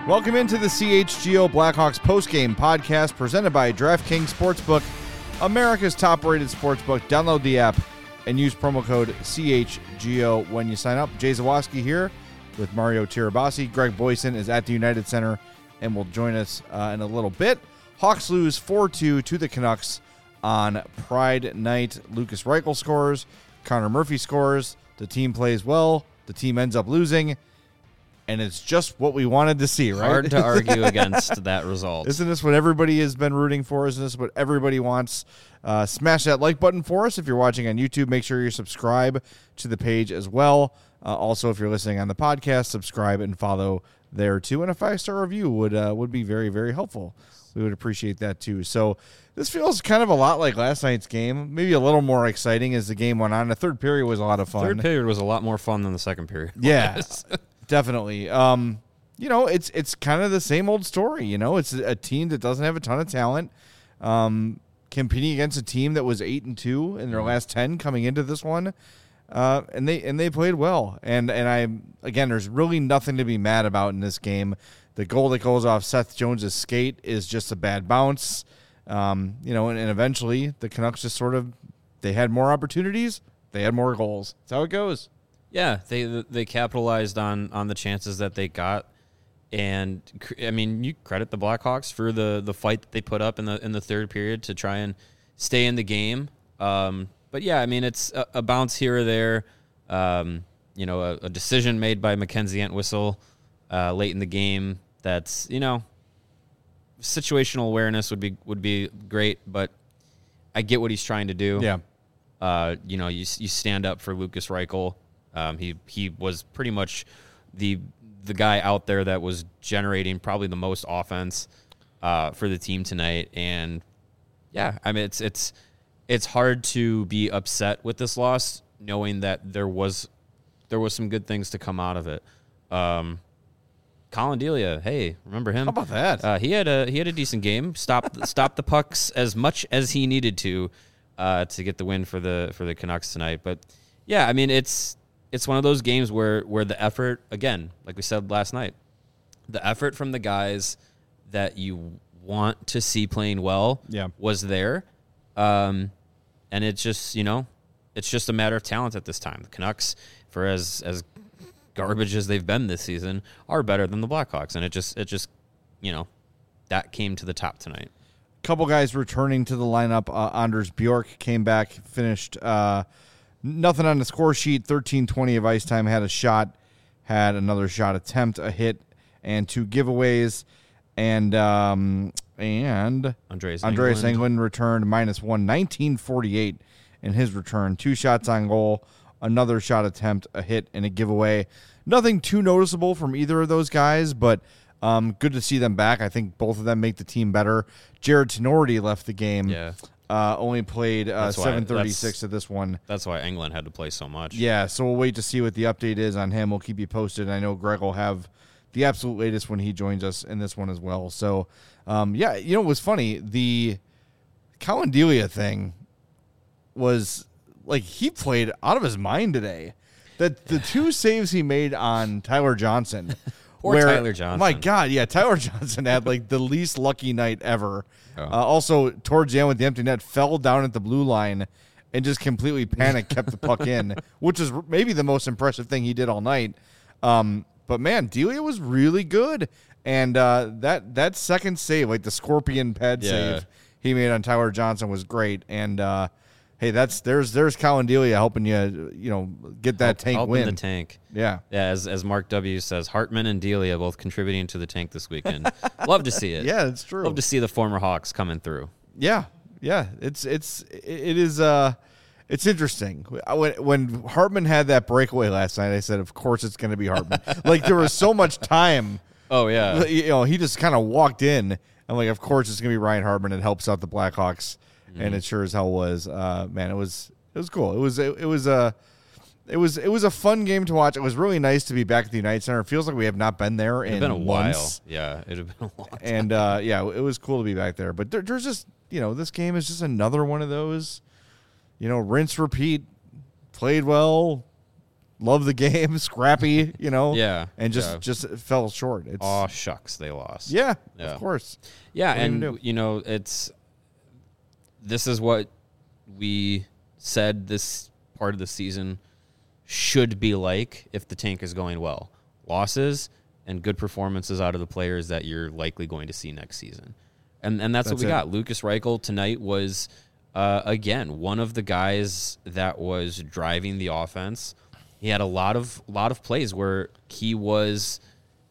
Welcome into the CHGO Blackhawks postgame podcast presented by DraftKings Sportsbook, America's top-rated sportsbook. Download the app and use promo code CHGO when you sign up. Jay Zawaski here with Mario Tirabassi. Greg Boyson is at the United Center and will join us in a little bit. Hawks lose 4-2 to the Canucks on Pride Night. Lucas Reichel scores. Connor Murphy scores. The team plays well. The team ends up losing. And it's just what we wanted to see, right? Hard to argue against that result. Isn't this what everybody has been rooting for? Isn't this what everybody wants? Smash that like button for us. If you're watching on YouTube, make sure you subscribe to the page as well. Also, if you're listening on the podcast, subscribe and follow there too. And a 5-star review would be very, very helpful. We would appreciate that too. So this feels kind of a lot like last night's game. Maybe a little more exciting as the game went on. The third period was a lot of fun. Third period was a lot more fun than the second period. Yeah. Definitely. It's kind of the same old story. It's a team that doesn't have a ton of talent, competing against a team that was 8-2 in their last 10 coming into this one, and they played well. And there's really nothing to be mad about in this game. The goal that goes off Seth Jones's skate is just a bad bounce, and eventually the Canucks just they had more opportunities, they had more goals. That's how it goes. Yeah, they capitalized on the chances that they got, and I mean, you credit the Blackhawks for the fight that they put up in the third period to try and stay in the game. But yeah, I mean, it's a bounce here or there. A decision made by Mackenzie Entwistle late in the game. That's situational awareness would be great, but I get what he's trying to do. Yeah, you stand up for Lucas Reichel. He was pretty much the guy out there that was generating probably the most offense for the team tonight. And yeah, I mean it's hard to be upset with this loss, knowing that there was some good things to come out of it. Colin Delia, hey, remember him? How about that? He had a decent game. Stopped the pucks as much as he needed to get the win for the Canucks tonight. But yeah, I mean it's one of those games where the effort, again, like we said last night, the effort from the guys that you want to see playing well was there. And it's just, it's just a matter of talent at this time. The Canucks, for as garbage as they've been this season, are better than the Blackhawks. And it just that came to the top tonight. Couple guys returning to the lineup. Anders Bjork came back, finished nothing on the score sheet, 13-20 of ice time, had a shot, had another shot attempt, a hit, and 2 giveaways. And Andreas Englund returned -1, 1948 in his return. 2 shots on goal, another shot attempt, a hit, and a giveaway. Nothing too noticeable from either of those guys, but good to see them back. I think both of them make the team better. Jared Tenorti left the game. Yeah. Only played 7:36 of this one. That's why England had to play so much. Yeah, so we'll wait to see what the update is on him. We'll keep you posted. I know Greg will have the absolute latest when he joins us in this one as well. So, it was funny. The Colin Delia thing was, he played out of his mind today. The 2 saves he made on Tyler Johnson. Tyler Johnson. My God, yeah, Tyler Johnson had the least lucky night ever. Oh. Also, towards the end with the empty net, fell down at the blue line and just completely panicked, kept the puck in, which is maybe the most impressive thing he did all night. But man, Delia was really good, and that second save, the scorpion pad save he made on Tyler Johnson was great. And hey, there's Colin Delia helping you get that tank win. The tank. Yeah. Yeah, as Mark W. says, Hartman and Delia both contributing to the tank this weekend. Love to see it. Yeah, it's true. Love to see the former Hawks coming through. Yeah. Yeah. It is it's interesting. When Hartman had that breakaway last night, I said, of course it's going to be Hartman. There was so much time. Oh, yeah. He just kind of walked in. I'm like, of course it's going to be Ryan Hartman. It helps out the Blackhawks. And it sure as hell was. Man, it was cool. It was a fun game to watch. It was really nice to be back at the United Center. It feels like we have not been there in a months. While. Yeah, it had been a long time. And it was cool to be back there. But there's just this game is just another one of those, rinse repeat. Played well, love the game, scrappy, Yeah. and just fell short. It's Oh, shucks, they lost. yeah, Yeah. of course. Yeah, What are you and gonna do? this is what we said this part of the season should be like if the tank is going well. Losses and good performances out of the players that you're likely going to see next season. And that's what we got. Lucas Reichel tonight was, again, one of the guys that was driving the offense. He had a lot of plays where he was,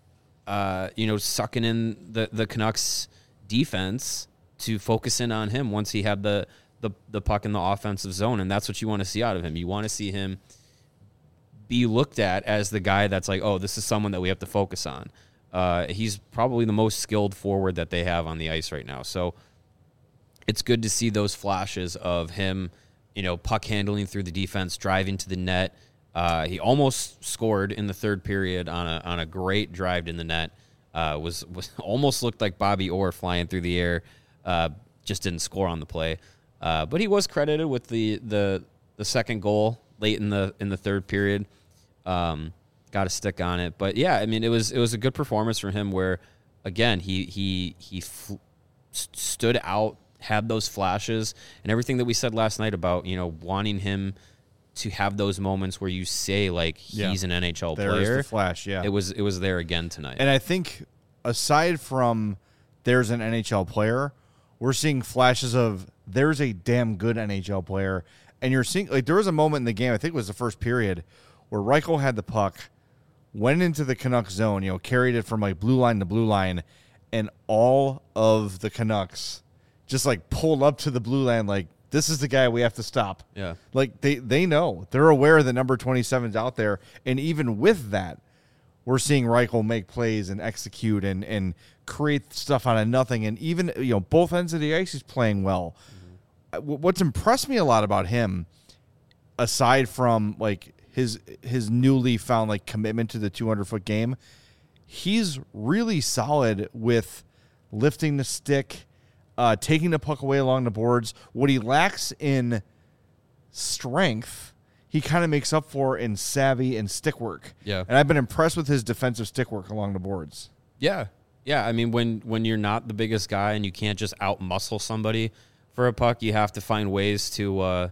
sucking in the Canucks defense to focus in on him once he had the puck in the offensive zone. And that's what you want to see out of him. You want to see him be looked at as the guy that's like, oh, this is someone that we have to focus on. He's probably the most skilled forward that they have on the ice right now. So it's good to see those flashes of him, puck handling through the defense, driving to the net. He almost scored in the third period on a great drive in the net. Was almost looked like Bobby Orr flying through the air. Just didn't score on the play. But he was credited with the second goal late in the third period. Got a stick on it, but yeah, I mean, it was a good performance from him. Where again, he stood out, had those flashes, and everything that we said last night about wanting him to have those moments where you say like he's an NHL player. There's the flash, yeah. It was there again tonight. And I think aside from there's an NHL player, we're seeing flashes of there's a damn good NHL player. And you're seeing, like, there was a moment in the game, I think it was the first period, where Reichel had the puck, went into the Canucks zone, carried it from, like, blue line to blue line, and all of the Canucks just, like, pulled up to the blue line, like, this is the guy we have to stop. Yeah. Like, they know. They're aware that number 27's out there. And even with that, we're seeing Reichel make plays and execute and create stuff out of nothing. And even, both ends of the ice, he's playing well. What's impressed me a lot about him, aside from like his newly found like commitment to the 200-foot game, he's really solid with lifting the stick, taking the puck away along the boards. What he lacks in strength, he kind of makes up for in savvy and stick work. Yeah, and I've been impressed with his defensive stick work along the boards. Yeah. I mean, when you're not the biggest guy and you can't just out muscle somebody for a puck, you have to find ways to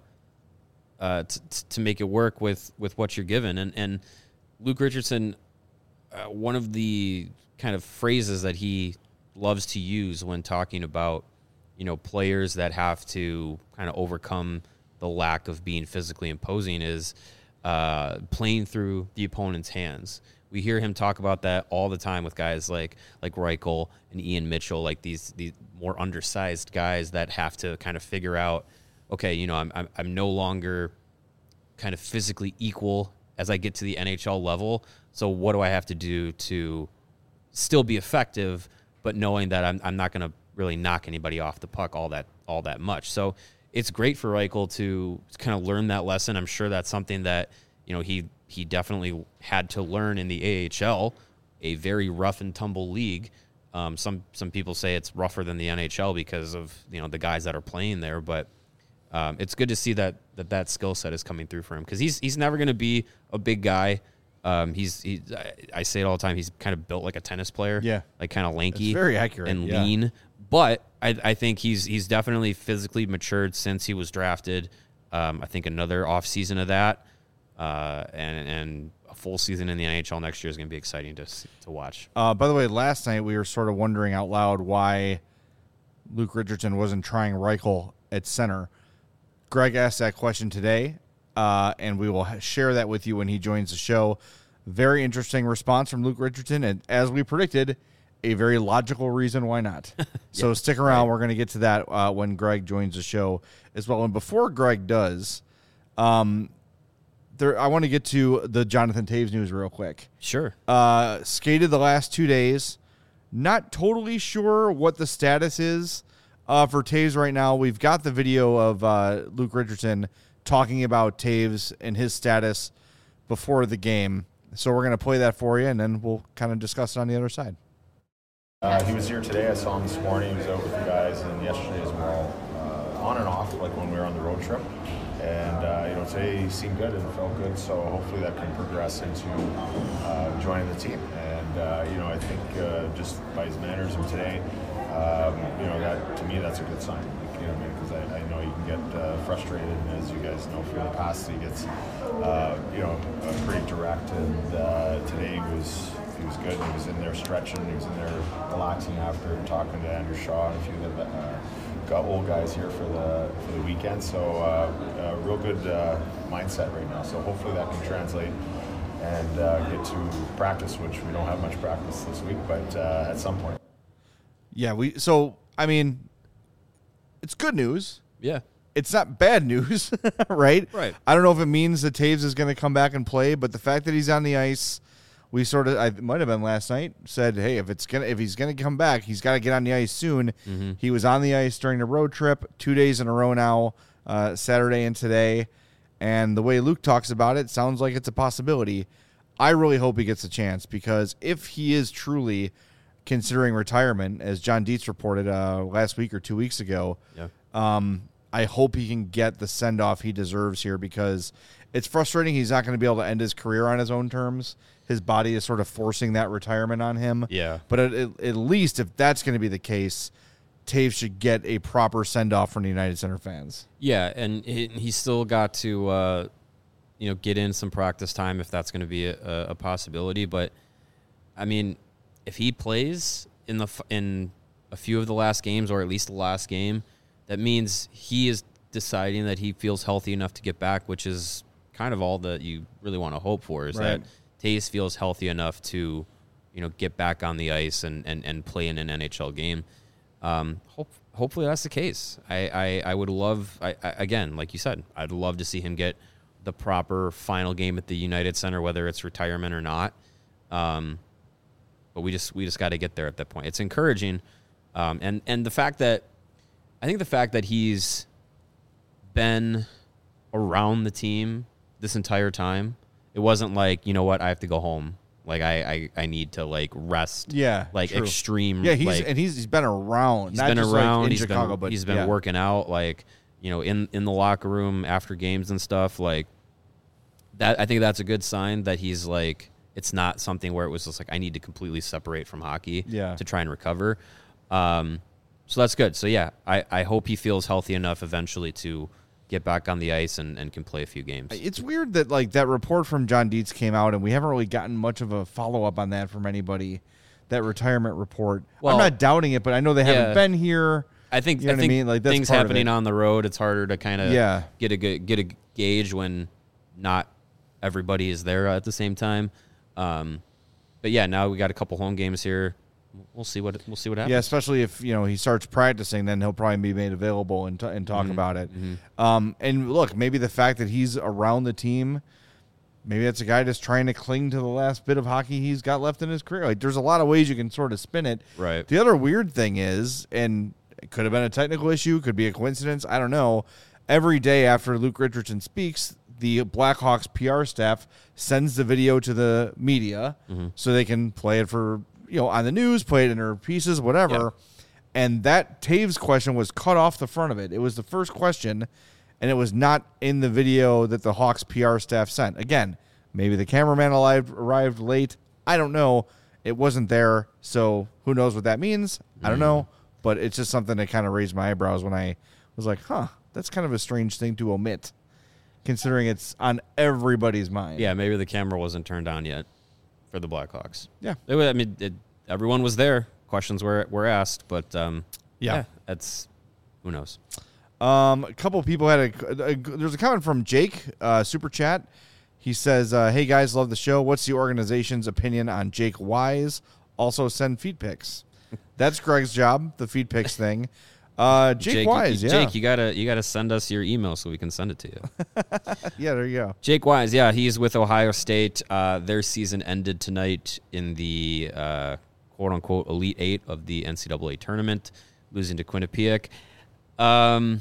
make it work with what you're given. And Luke Richardson, one of the kind of phrases that he loves to use when talking about players that have to kind of overcome the lack of being physically imposing is playing through the opponent's hands. We hear him talk about that all the time with guys like Reichel and Ian Mitchell, like these more undersized guys that have to kind of figure out, okay, I'm no longer kind of physically equal as I get to the NHL level. So what do I have to do to still be effective, but knowing that I'm not going to really knock anybody off the puck all that much. So it's great for Reichel to kind of learn that lesson. I'm sure that's something that he definitely had to learn in the AHL, a very rough and tumble league. Some people say it's rougher than the NHL because of the guys that are playing there, but it's good to see that skill set is coming through for him because he's never going to be a big guy. I say it all the time. He's kind of built like a tennis player, like kind of lanky, it's very accurate and lean. But I think he's definitely physically matured since he was drafted. I think another offseason of that. And a full season in the NHL next year is going to be exciting to watch. By the way, last night we were sort of wondering out loud why Luke Richardson wasn't trying Reichel at center. Greg asked that question today, and we will share that with you when he joins the show. Very interesting response from Luke Richardson, and as we predicted, a very logical reason why not. So stick around. Right. We're going to get to that when Greg joins the show as well. And before Greg does, I want to get to the Jonathan Toews news real quick. Sure. Skated the last 2 days. Not totally sure what the status is for Toews right now. We've got the video of Luke Richardson talking about Toews and his status before the game. So we're going to play that for you, and then we'll kind of discuss it on the other side. He was here today. I saw him this morning. He was out with the guys, and yesterday as well, on and off, like when we were on the road trip. And today he seemed good and felt good, so hopefully that can progress into joining the team. And I think just by his mannerism today, that to me that's a good sign. Because I know you can get frustrated, and as you guys know from the past, he gets pretty direct. And today he was good. He was in there stretching. He was in there relaxing after talking to Andrew Shaw and a few of the got old guys here for the weekend. So real good mindset right now. So hopefully that can translate and get to practice, which we don't have much practice this week, but at some point. Yeah, it's good news. Yeah. It's not bad news, right? Right. I don't know if it means that Taves is going to come back and play, but the fact that he's on the ice, I might have been last night, said, hey, if he's gonna come back, he's got to get on the ice soon. Mm-hmm. He was on the ice during the road trip 2 days in a row now, Saturday and today, and the way Luke talks about it sounds like it's a possibility. I really hope he gets a chance, because if he is truly considering retirement, as John Dietz reported last week or 2 weeks ago, I hope he can get the send-off he deserves here, because it's frustrating he's not going to be able to end his career on his own terms. His body is sort of forcing that retirement on him. Yeah. But at least if that's going to be the case, Taves should get a proper send-off from the United Center fans. Yeah, and he still got to get in some practice time if that's going to be a possibility. But, I mean, if he plays in a few of the last games, or at least the last game, that means he is deciding that he feels healthy enough to get back, which is kind of all that you really want to hope for, is right. that Taves feels healthy enough to, get back on the ice and play in an NHL game. Hopefully that's the case. I would love, again, like you said, I'd love to see him get the proper final game at the United Center, whether it's retirement or not. But we just got to get there at that point. It's encouraging. And the fact that he's been around the team this entire time, it wasn't like, I have to go home. Like I need to rest. Yeah. True. Extreme. Yeah. He's been around. He's been around. In he's Chicago, been, he's been working out, in the locker room after games and stuff that. I think that's a good sign that he's it's not something where it was just I need to completely separate from hockey to try and recover. So that's good. So yeah, I hope he feels healthy enough eventually to get back on the ice and can play a few games. It's weird that that report from John Dietz came out, and we haven't really gotten much of a follow-up on that from anybody, that retirement report. Well, I'm not doubting it, but I know they haven't been here. I think what I mean? That's things happening on the road, it's harder to kind of get a gauge when not everybody is there at the same time. But yeah, now we got a couple home games here. We'll see what happens. Yeah, especially if he starts practicing, then he'll probably be made available and talk about it. Mm-hmm. And look, maybe the fact that he's around the team, maybe that's a guy just trying to cling to the last bit of hockey he's got left in his career. There's a lot of ways you can sort of spin it. Right. The other weird thing is, and it could have been a technical issue, could be a coincidence, I don't know. Every day after Luke Richardson speaks, the Blackhawks PR staff sends the video to the media so they can play it for on the news, play it in their pieces, whatever. Yeah. And that Taves question was cut off the front of it. It was the first question, and it was not in the video that the Hawks PR staff sent. Again, maybe the cameraman arrived late. I don't know. It wasn't there, so who knows what that means? I don't know. But it's just something that kind of raised my eyebrows when I was like, that's kind of a strange thing to omit, considering it's on everybody's mind. Yeah, maybe the camera wasn't turned on yet for the Blackhawks. Yeah. Everyone was there. Questions were asked, but that's who knows. A couple of people had there's a comment from Jake, Super Chat. He says, hey guys, love the show. What's the organization's opinion on Jake Wise? Also send feed pics. That's Greg's job, the feed pics thing. Jake Wise, Jake, you gotta send us your email so we can send it to you. Yeah, there you go. Jake Wise, yeah, he's with Ohio State. Their season ended tonight in the quote unquote Elite Eight of the NCAA tournament, losing to Quinnipiac. I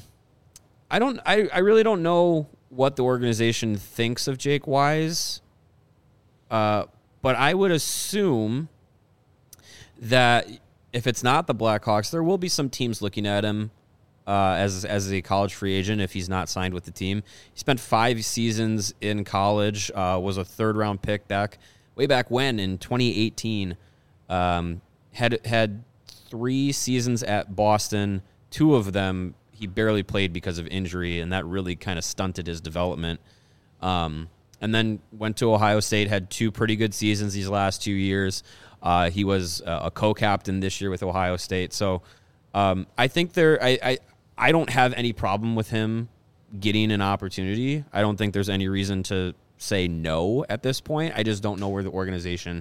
really don't know what the organization thinks of Jake Wise, but I would assume that if it's not the Blackhawks, there will be some teams looking at him as a college free agent if he's not signed with the team. He spent 5 seasons in college, was a third-round pick way back when in 2018. Had 3 seasons at Boston. 2 of them he barely played because of injury, and that really kind of stunted his development. And then went to Ohio State, had 2 pretty good seasons these last 2 years. He was a co-captain this year with Ohio State. So I think I don't have any problem with him getting an opportunity. I don't think there's any reason to say no at this point. I just don't know where the organization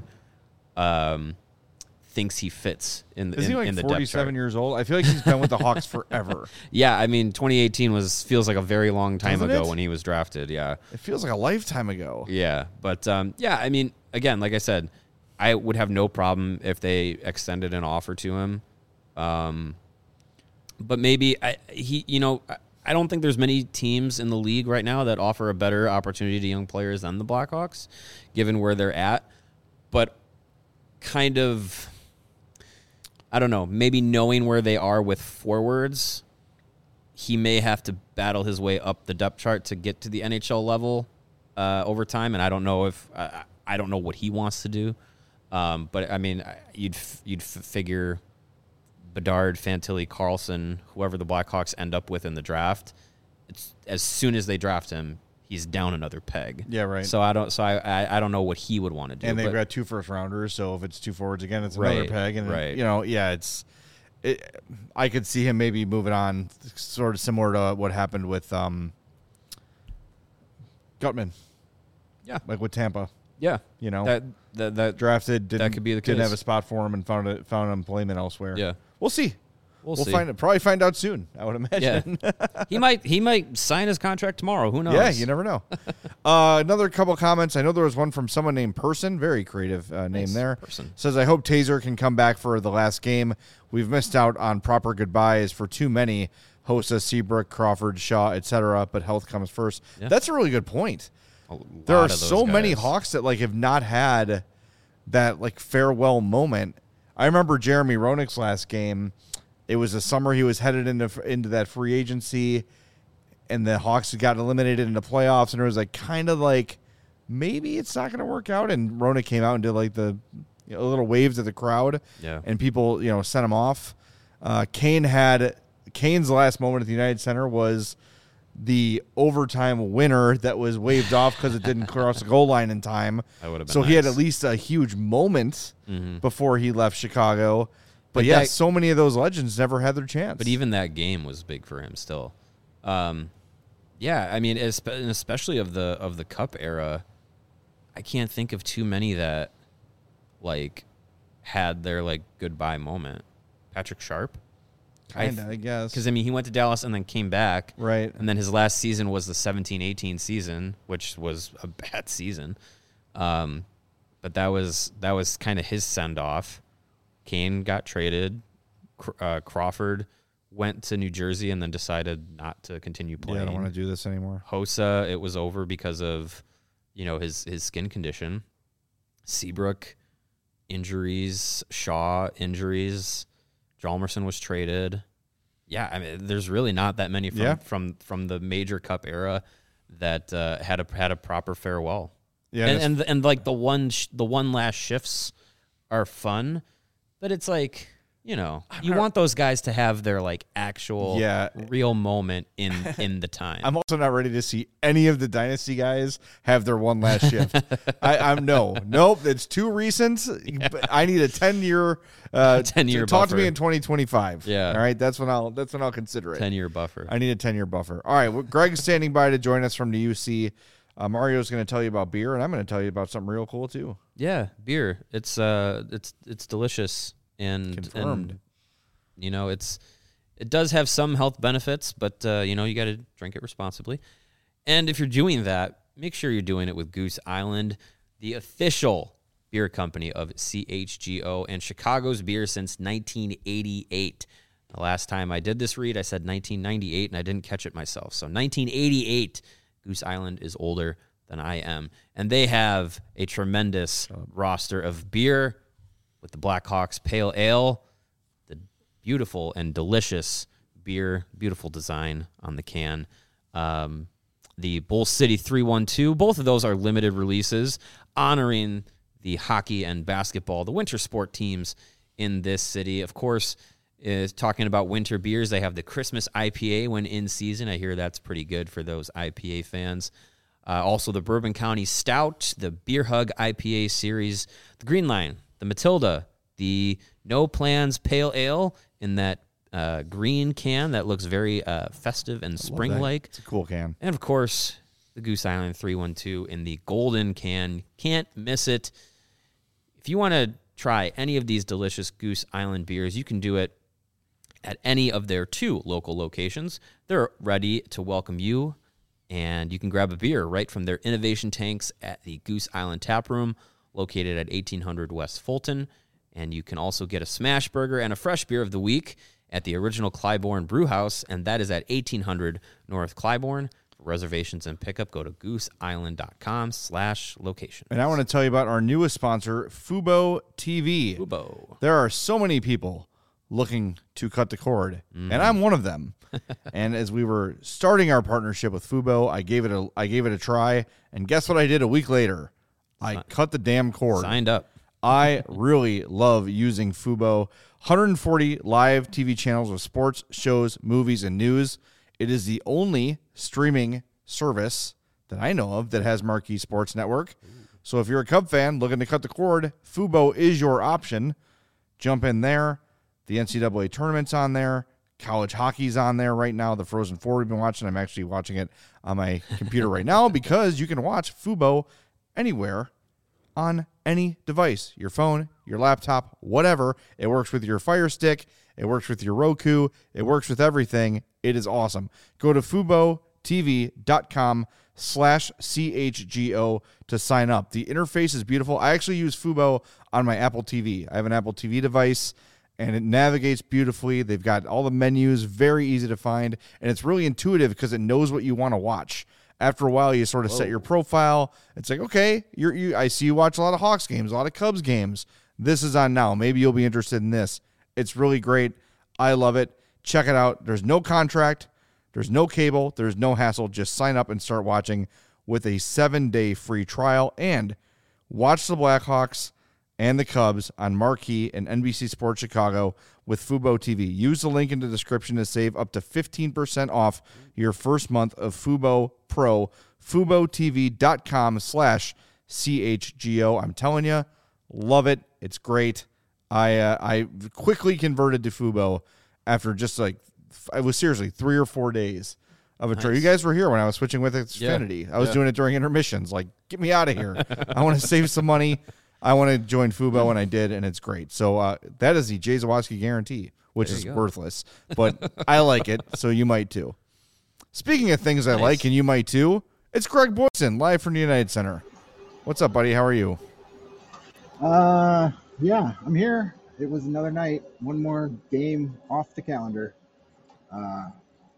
thinks he fits in the Is he like in the 47 years old? I feel like he's been with the Hawks forever. Yeah, I mean 2018 feels like a very long time Doesn't ago it? when he was drafted. Yeah. It feels like a lifetime ago. Yeah, but yeah, I mean, again, like I said, I would have no problem if they extended an offer to him. But maybe I don't think there's many teams in the league right now that offer a better opportunity to young players than the Blackhawks, given where they're at. But kind of, I don't know, maybe knowing where they are with forwards, he may have to battle his way up the depth chart to get to the NHL level over time. And I don't know I don't know what he wants to do. But I mean, you'd figure Bedard, Fantilli, Carlson, whoever the Blackhawks end up with in the draft, as soon as they draft him, he's down another peg. Yeah, right. So I don't know what he would want to do. And they've got 2 first-rounders, so if it's 2 forwards again, it's another Right, peg. And, right. Yeah, I could see him maybe moving on, sort of similar to what happened with Gutman. Yeah. Like with Tampa. Yeah, That drafted, didn't, that could be the didn't case. have a spot for him and found employment elsewhere. Yeah. We'll see. We'll see. Probably find out soon, I would imagine. Yeah. he might sign his contract tomorrow. Who knows? Yeah, you never know. Another couple comments. I know there was one from someone named Person. Very creative name there. Person. Says, I hope Taser can come back for the last game. We've missed out on proper goodbyes for too many. Hossa, Seabrook, Crawford, Shaw, etc. But health comes first. Yeah. That's a really good point. A There lot are of those so many guys. Hawks that have not had that farewell moment. I remember Jeremy Roenick's last game. It was the summer he was headed into that free agency, and the Hawks had gotten eliminated in the playoffs, and it was maybe it's not going to work out. And Roenick came out and did the little waves at the crowd, Yeah. and people sent him off. Kane's last moment at the United Center was the overtime winner that was waved off because it didn't cross the goal line in time. That would have been so he had nice. at least a huge moment before he left Chicago. But But yeah, that- so many of those legends never had their chance. But even that game was big for him still. Yeah, I mean, and especially of the Cup era, I can't think of too many that had their goodbye moment. Patrick Sharp, Kinda, I guess. because I mean he went to Dallas and then came back, Right. And then his last season was the 17-18 season, which was a bad season. But that was kind of his send off. Kane got traded. Crawford went to New Jersey and then decided not to continue playing. Yeah, I don't want to do this anymore. Hossa, it was over because of, his skin condition. Seabrook, injuries. Shaw, injuries. Hjalmarsson was traded. Yeah, I mean, there's really not that many from the major Cup era that had a proper farewell. Yeah, and the one last shifts are fun, but it's you want those guys to have their actual real moment in the time. I'm also not ready to see any of the Dynasty guys have their one last shift. Nope. It's too recent. But I need a 10-year. 10-year Talk to buffer. me in 2025. Yeah. All right. That's when I'll consider it. 10-year buffer. I need a 10-year buffer. All right. Well, Greg's standing by to join us from the UC. Mario's going to tell you about beer, and I'm going to tell you about something real cool too. Yeah, beer. It's delicious and Confirmed. And, it does have some health benefits, but you got to drink it responsibly. And if you're doing that, make sure you're doing it with Goose Island, the official beer company of CHGO and Chicago's beer since 1988. The last time I did this read, I said 1998, and I didn't catch it myself. So 1988, Goose Island is older than I am. And they have a tremendous roster of beer with the Blackhawks Pale Ale, the beautiful and delicious beer, beautiful design on the can. The Bull City 312, both of those are limited releases honoring the hockey and basketball, the winter sport teams in this city. Of course, is talking about winter beers. They have the Christmas IPA when in season. I hear that's pretty good for those IPA fans. Also, the Bourbon County Stout, the Beer Hug IPA series, the Green Line, the Matilda, the No Plans Pale Ale in that green can that looks very festive and spring-like. It's a cool can. And, of course, the Goose Island 312 in the golden can. Can't miss it. If you want to try any of these delicious Goose Island beers, you can do it at any of their 2 local locations. They're ready to welcome you, and you can grab a beer right from their innovation tanks at the Goose Island Tap Room, located at 1800 West Fulton. And you can also get a smash burger and a fresh beer of the week at the original Clybourne Brew House, and that is at 1800 North Clybourne. For reservations and pickup, go to gooseisland.com/location. And I want to tell you about our newest sponsor, Fubo TV. Fubo. There are so many people looking to cut the cord, and I'm one of them. And as we were starting our partnership with Fubo, I gave it a try, and guess what I did a week later? I cut the damn cord. Signed up. I really love using Fubo. 140 live TV channels with sports, shows, movies, and news. It is the only streaming service that I know of that has Marquee Sports Network. So if you're a Cub fan looking to cut the cord, Fubo is your option. Jump in there. The NCAA tournament's on there. College hockey's on there right now. The Frozen Four we've been watching. I'm actually watching it on my computer right now because you can watch Fubo anywhere on any device, your phone, your laptop, whatever. It works with your Fire Stick. It works with your Roku. It works with everything. It is awesome. Go to FuboTV.com/CHGO to sign up. The interface is beautiful. I actually use Fubo on my Apple TV. I have an Apple TV device, and it navigates beautifully. They've got all the menus, very easy to find, and it's really intuitive because it knows what you want to watch. After a while, you sort of set your profile. It's like, okay, I see you watch a lot of Hawks games, a lot of Cubs games. This is on now. Maybe you'll be interested in this. It's really great. I love it. Check it out. There's no contract. There's no cable. There's no hassle. Just sign up and start watching with a 7-day free trial. And watch the Blackhawks and the Cubs on Marquee and NBC Sports Chicago with Fubo TV. Use the link in the description to save up to 15% off your first month of Fubo Pro. FuboTV.com/CHGO. I'm telling you, love it. It's great. I quickly converted to Fubo after just it was seriously 3 or 4 days of a trip. You guys were here when I was switching with Xfinity. I was doing it during intermissions. Like, get me out of here. I want to save some money. I want to join Fubo, and I did, and it's great. So that is the Jay Zawaski guarantee, which is worthless. But I like it, so you might too. Speaking of things I like, and you might too, it's Greg Boyson, live from the United Center. What's up, buddy? How are you? Yeah, I'm here. It was another night. One more game off the calendar. Yeah.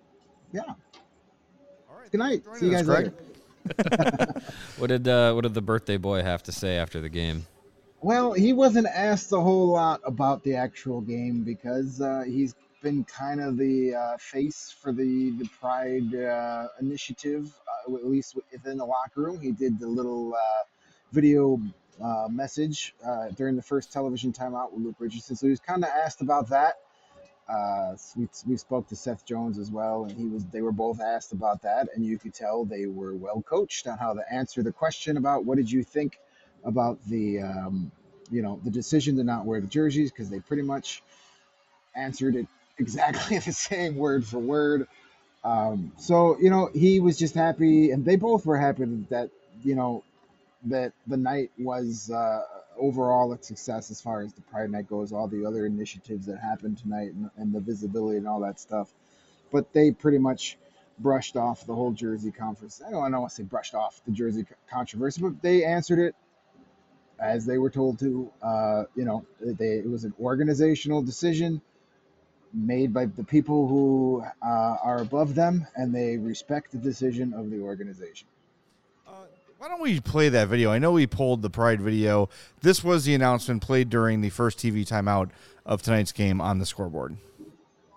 All right. Good night. See you guys later. What did the birthday boy have to say after the game? Well, he wasn't asked a whole lot about the actual game because he's been kind of the face for the Pride initiative, at least within the locker room. He did the little video message during the first television timeout with Luke Richardson. So he was kind of asked about that. We spoke to Seth Jones as well, and they were both asked about that, and you could tell they were well coached on how to answer the question about what did you think about the the decision to not wear the jerseys, because they pretty much answered it exactly the same word for word. So he was just happy, and they both were happy that that the night was overall a success as far as the Pride Night goes, all the other initiatives that happened tonight and the visibility and all that stuff. But they pretty much brushed off the whole jersey conference. I don't want to say brushed off the jersey controversy, but they answered it as they were told to. It was an organizational decision made by the people who are above them, and they respect the decision of the organization. Why don't we play that video? I know we pulled the Pride video. This was the announcement played during the first TV timeout of tonight's game on the scoreboard.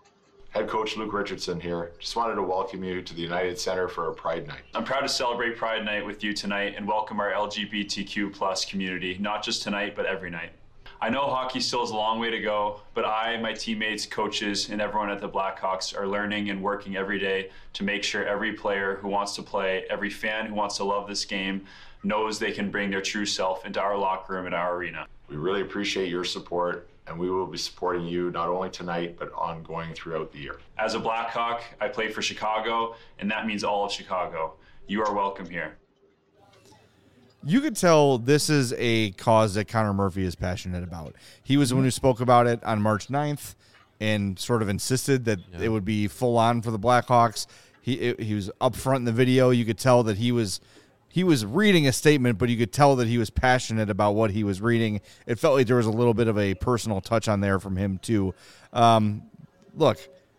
Head coach Luke Richardson here. Just wanted to welcome you to the United Center for a Pride Night. I'm proud to celebrate Pride Night with you tonight and welcome our LGBTQ plus community, not just tonight, but every night. I know hockey still has a long way to go, but I, my teammates, coaches, and everyone at the Blackhawks are learning and working every day to make sure every player who wants to play, every fan who wants to love this game, knows they can bring their true self into our locker room and our arena. We really appreciate your support, and we will be supporting you not only tonight, but ongoing throughout the year. As a Blackhawk, I play for Chicago, and that means all of Chicago. You are welcome here. You could tell this is a cause that Connor Murphy is passionate about. He was the one who spoke about it on March 9th and sort of insisted that it would be full on for the Blackhawks. He was up front in the video. You could tell that he was reading a statement, but you could tell that he was passionate about what he was reading. It felt like there was a little bit of a personal touch on there from him too. Look,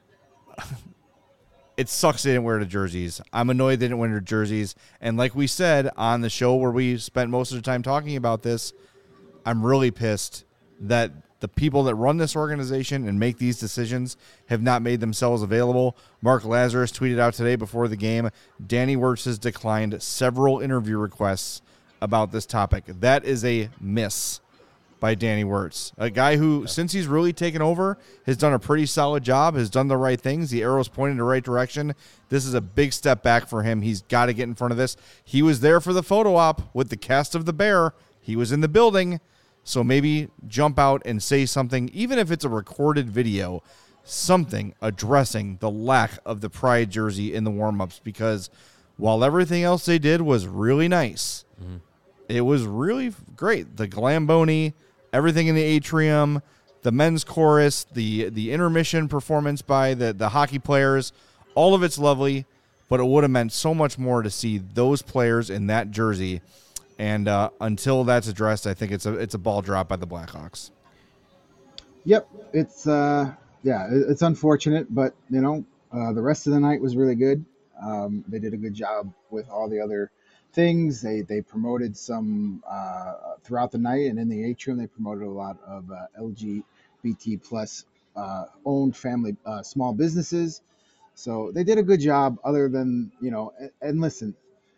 it sucks they didn't wear the jerseys. I'm annoyed they didn't wear the jerseys. And like we said on the show where we spent most of the time talking about this, I'm really pissed that the people that run this organization and make these decisions have not made themselves available. Mark Lazarus tweeted out today before the game, Danny Wirtz has declined several interview requests about this topic. That is a miss by Danny Wirtz, a guy who, since he's really taken over, has done a pretty solid job, has done the right things. The arrow's pointing in the right direction. This is a big step back for him. He's got to get in front of this. He was there for the photo op with the cast of The Bear. He was in the building. So maybe jump out and say something, even if it's a recorded video, something addressing the lack of the Pride jersey in the warm-ups, because while everything else they did was really nice, it was really great. The Glamboni, everything in the atrium, the men's chorus, the intermission performance by the hockey players, all of it's lovely, but it would have meant so much more to see those players in that jersey. And until that's addressed, I think it's a ball drop by the Blackhawks. Yep, it's it's unfortunate, but the rest of the night was really good. They did a good job with all the other things. They promoted some throughout the night, and in the atrium they promoted a lot of LGBT plus owned family small businesses. So they did a good job. Other than and listen.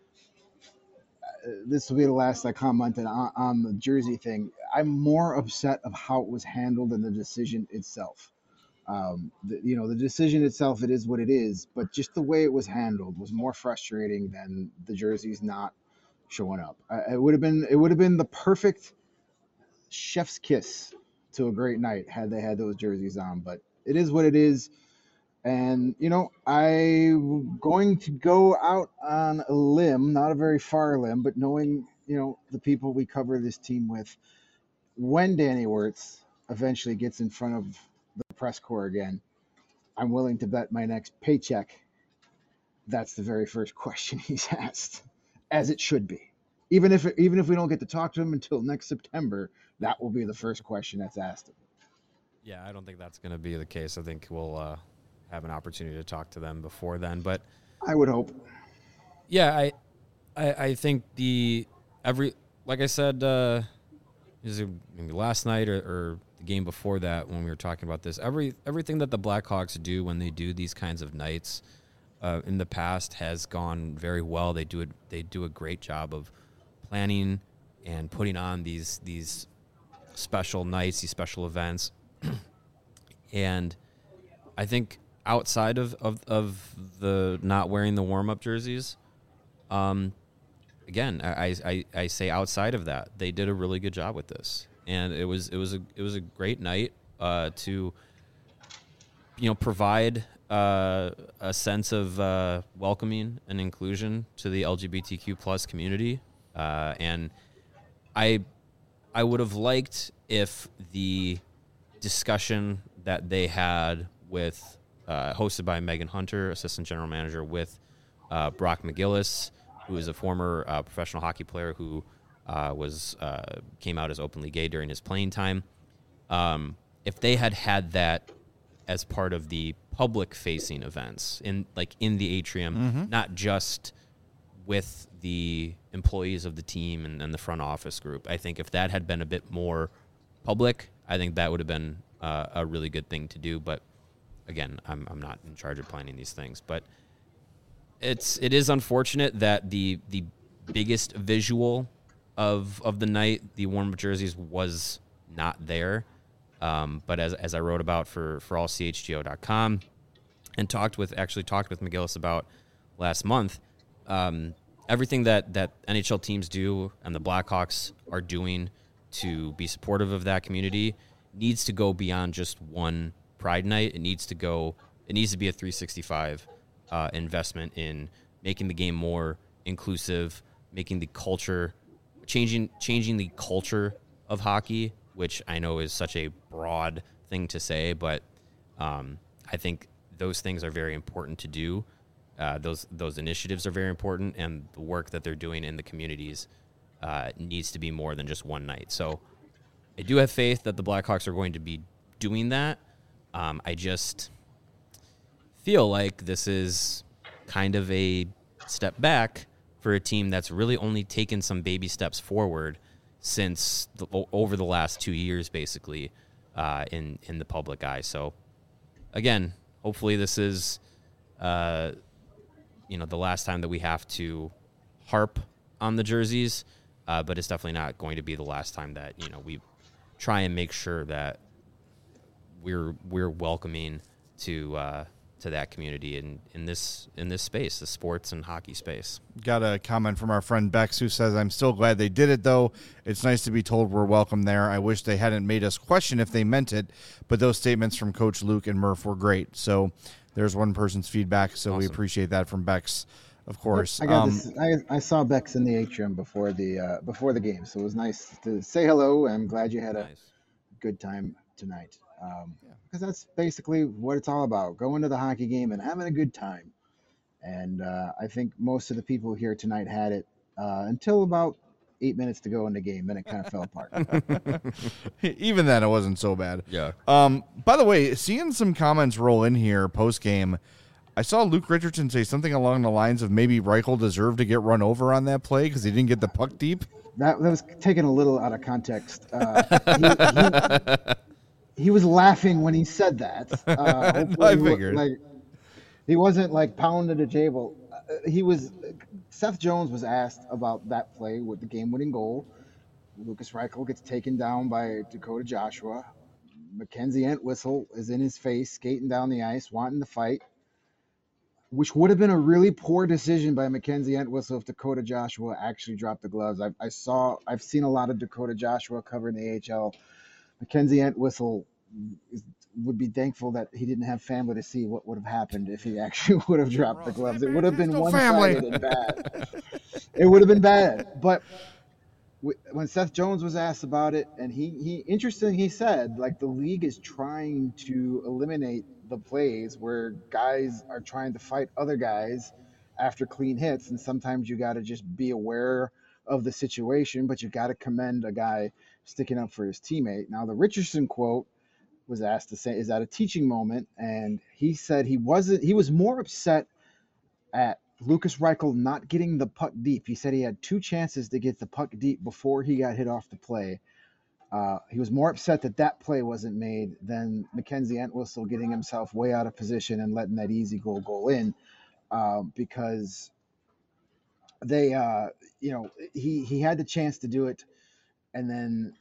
This will be the last I commented on the jersey thing. I'm more upset of how it was handled than the decision itself. The decision itself, it is what it is, but just the way it was handled was more frustrating than the jerseys not showing up. It would have been the perfect chef's kiss to a great night had they had those jerseys on, but it is what it is. And, I'm going to go out on a limb, not a very far limb, but knowing, the people we cover this team with, when Danny Wirtz eventually gets in front of the press corps again, I'm willing to bet my next paycheck that's the very first question he's asked, as it should be. Even if we don't get to talk to him until next September, that will be the first question that's asked of him. Yeah, I don't think that's going to be the case. I think we'll have an opportunity to talk to them before then, but I would hope. Yeah, I think like I said, is it maybe last night or the game before that when we were talking about this, everything that the Blackhawks do when they do these kinds of nights in the past has gone very well. They do a great job of planning and putting on these special nights, these special events, and I think outside of the not wearing the warm-up jerseys, again, I say outside of that, they did a really good job with this, and it was a great night to provide a sense of welcoming and inclusion to the LGBTQ plus community, and I would have liked if the discussion that they had with hosted by Megan Hunter, assistant general manager, with Brock McGillis, who is a former professional hockey player who came out as openly gay during his playing time. If they had that as part of the public-facing events in the atrium, not just with the employees of the team and the front office group, I think if that had been a bit more public, I think that would have been a really good thing to do. But again, I'm not in charge of planning these things, but it is unfortunate that the biggest visual of the night, the warm-up jerseys, was not there. But as I wrote about for allchgo.com and talked with McGillis about last month, everything that NHL teams do and the Blackhawks are doing to be supportive of that community needs to go beyond just one Pride night. It needs to be a 365 investment in making the game more inclusive, making the culture, changing the culture of hockey, which I know is such a broad thing to say, but I think those things are very important to do. Those initiatives are very important, and the work that they're doing in the communities needs to be more than just one night. So I do have faith that the Blackhawks are going to be doing that. I just feel like this is kind of a step back for a team that's really only taken some baby steps forward since over the last 2 years, basically, in the public eye. So, again, hopefully this is, the last time that we have to harp on the jerseys, but it's definitely not going to be the last time that, we try and make sure that we're welcoming to that community in this space, the sports and hockey space. Got a comment from our friend Bex who says, "I'm still glad they did it, though. It's nice to be told we're welcome there. I wish they hadn't made us question if they meant it, but those statements from Coach Luke and Murph were great." So there's one person's feedback, so awesome. We appreciate that from Bex, of course. I saw Bex in the atrium before the game, so it was nice to say hello. I'm glad you had a good time tonight. Because that's basically what it's all about, going to the hockey game and having a good time. And I think most of the people here tonight had it until about 8 minutes to go in the game. Then it kind of fell apart. Even then, it wasn't so bad. Yeah. By the way, seeing some comments roll in here post-game, I saw Luke Richardson say something along the lines of maybe Reichel deserved to get run over on that play because he didn't get the puck deep. That was taken a little out of context. He was laughing when he said that. I figured. He wasn't pounding the table. Seth Jones was asked about that play with the game-winning goal. Lucas Reichel gets taken down by Dakota Joshua. Mackenzie Entwistle is in his face, skating down the ice, wanting to fight, which would have been a really poor decision by Mackenzie Entwistle if Dakota Joshua actually dropped the gloves. I've seen a lot of Dakota Joshua covering the AHL. Mackenzie Entwistle would be thankful that he didn't have family to see what would have happened if he actually would have dropped the gloves. It would have been one-sided and bad. It would have been bad. But when Seth Jones was asked about it, and he said, the league is trying to eliminate the plays where guys are trying to fight other guys after clean hits, and sometimes you got to just be aware of the situation, but you got to commend a guy sticking up for his teammate. Now, the Richardson quote was asked to say, is that a teaching moment? And he said he was more upset at Lucas Reichel not getting the puck deep. He said he had 2 chances to get the puck deep before he got hit off the play. He was more upset that play wasn't made than Mackenzie Entwistle getting himself way out of position and letting that easy goal in, because they, he had the chance to do it. And then,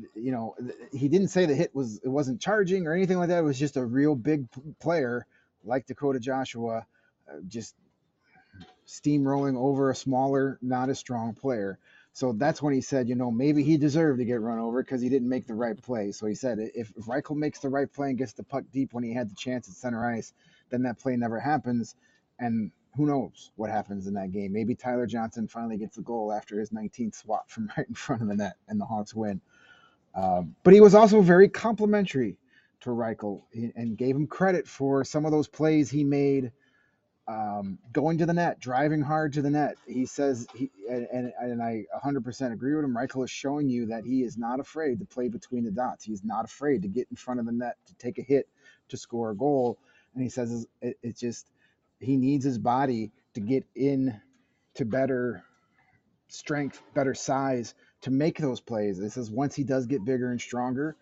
he didn't say the hit it wasn't charging or anything like that. It was just a real big player like Dakota Joshua, just steamrolling over a smaller, not as strong player. So that's when he said, maybe he deserved to get run over because he didn't make the right play. So he said if Reichel makes the right play and gets the puck deep when he had the chance at center ice, then that play never happens. And who knows what happens in that game. Maybe Tyler Johnson finally gets the goal after his 19th swat from right in front of the net and the Hawks win. But he was also very complimentary to Reichel and gave him credit for some of those plays he made, going to the net, driving hard to the net. He says, and I 100% agree with him, Reichel is showing you that he is not afraid to play between the dots. He's not afraid to get in front of the net, to take a hit, to score a goal. And he says it's just, he needs his body to get in to better strength, better size to make those plays. It says once he does get bigger and stronger,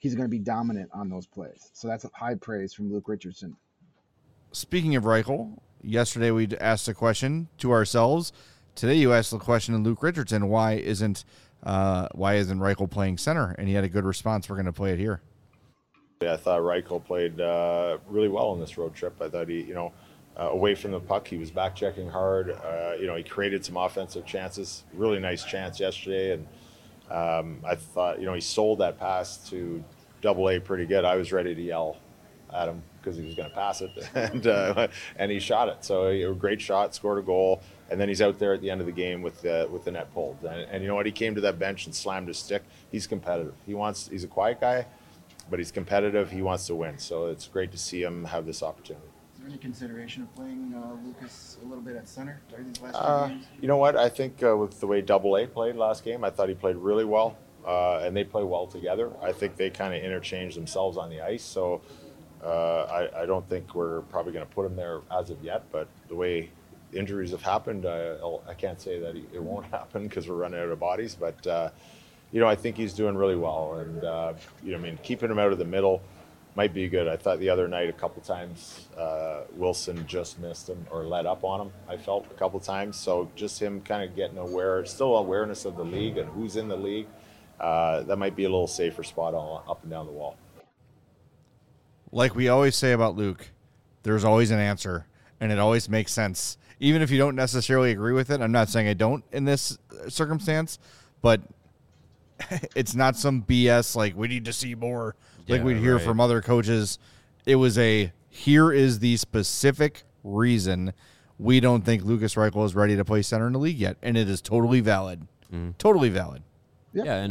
he's going to be dominant on those plays. So that's high praise from Luke Richardson. Speaking of Reichel, yesterday we asked a question to ourselves. Today you asked the question to Luke Richardson, why isn't Reichel playing center? And he had a good response. We're going to play it here. I thought Reichel played really well on this road trip. I thought he, away from the puck, he was back checking hard. He created some offensive chances. Really nice chance yesterday, and I thought, he sold that pass to AA pretty good. I was ready to yell at him because he was going to pass it, and he shot it. So a great shot, scored a goal, and then he's out there at the end of the game with the net pulled. And you know what? He came to that bench and slammed his stick. He's competitive. He's a quiet guy, but he's competitive. He wants to win. So it's great to see him have this opportunity. Is there any consideration of playing Lucas a little bit at center during these last few games? You know what? I think with the way AA played last game, I thought he played really well, and they play well together. I think they kind of interchange themselves on the ice. So I don't think we're probably going to put him there as of yet. But the way injuries have happened, I can't say that it won't happen because we're running out of bodies. But I think he's doing really well, and keeping him out of the middle might be good. I thought the other night a couple times Wilson just missed him or let up on him. I felt a couple times. So just him kind of getting still awareness of the league and who's in the league. That might be a little safer spot up and down the wall. Like we always say about Luke, there's always an answer, and it always makes sense. Even if you don't necessarily agree with it, I'm not saying I don't in this circumstance, but it's not some BS like we need to see more like we'd hear from other coaches. It was here is the specific reason we don't think Lukas Reichel is ready to play center in the league yet, and it is totally valid. Totally valid. Yep, yeah, and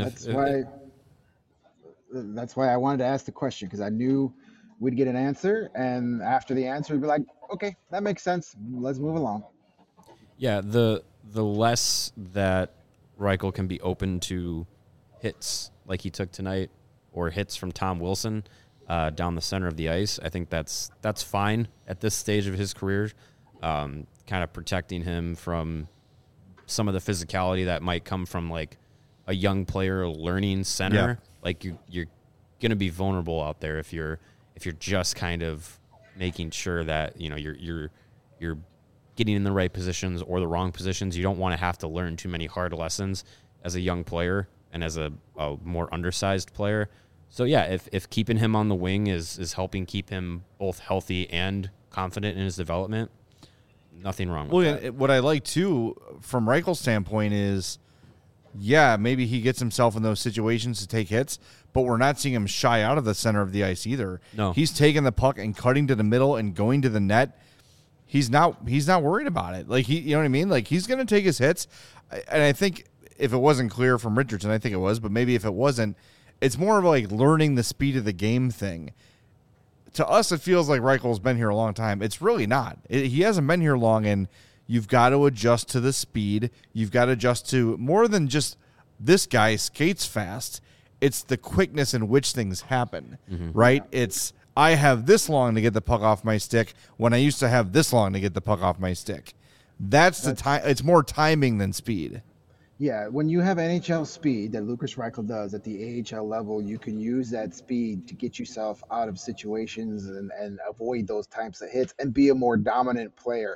that's why I wanted to ask the question, because I knew we'd get an answer, and after the answer, we'd be like, okay, that makes sense. Let's move along. Yeah, the less that Reichel can be open to hits like he took tonight or hits from Tom Wilson down the center of the ice, I think that's fine at this stage of his career, kind of protecting him from some of the physicality that might come from like a young player learning center. Yeah. Like you're going to be vulnerable out there if you're just kind of making sure that you're getting in the right positions or the wrong positions. You don't want to have to learn too many hard lessons as a young player and as a more undersized player. So yeah, if keeping him on the wing is helping keep him both healthy and confident in his development, nothing wrong with that. What I like too from Reichel's standpoint is, yeah, maybe he gets himself in those situations to take hits, but we're not seeing him shy out of the center of the ice either. No. He's taking the puck and cutting to the middle and going to the net. He's not worried about it. Like you know what I mean? Like he's going to take his hits. And I think if it wasn't clear from Richardson, I think it was, but maybe if it wasn't, it's more of like learning the speed of the game thing. To us, it feels like Reichel's been here a long time. It's really not. He hasn't been here long, and you've got to adjust to the speed. You've got to adjust to more than just this guy skates fast. It's the quickness in which things happen, right? It's I have this long to get the puck off my stick when I used to have this long to get the puck off my stick. That's the time. It's more timing than speed. Yeah, when you have NHL speed that Lukas Reichel does at the AHL level, you can use that speed to get yourself out of situations and avoid those types of hits and be a more dominant player,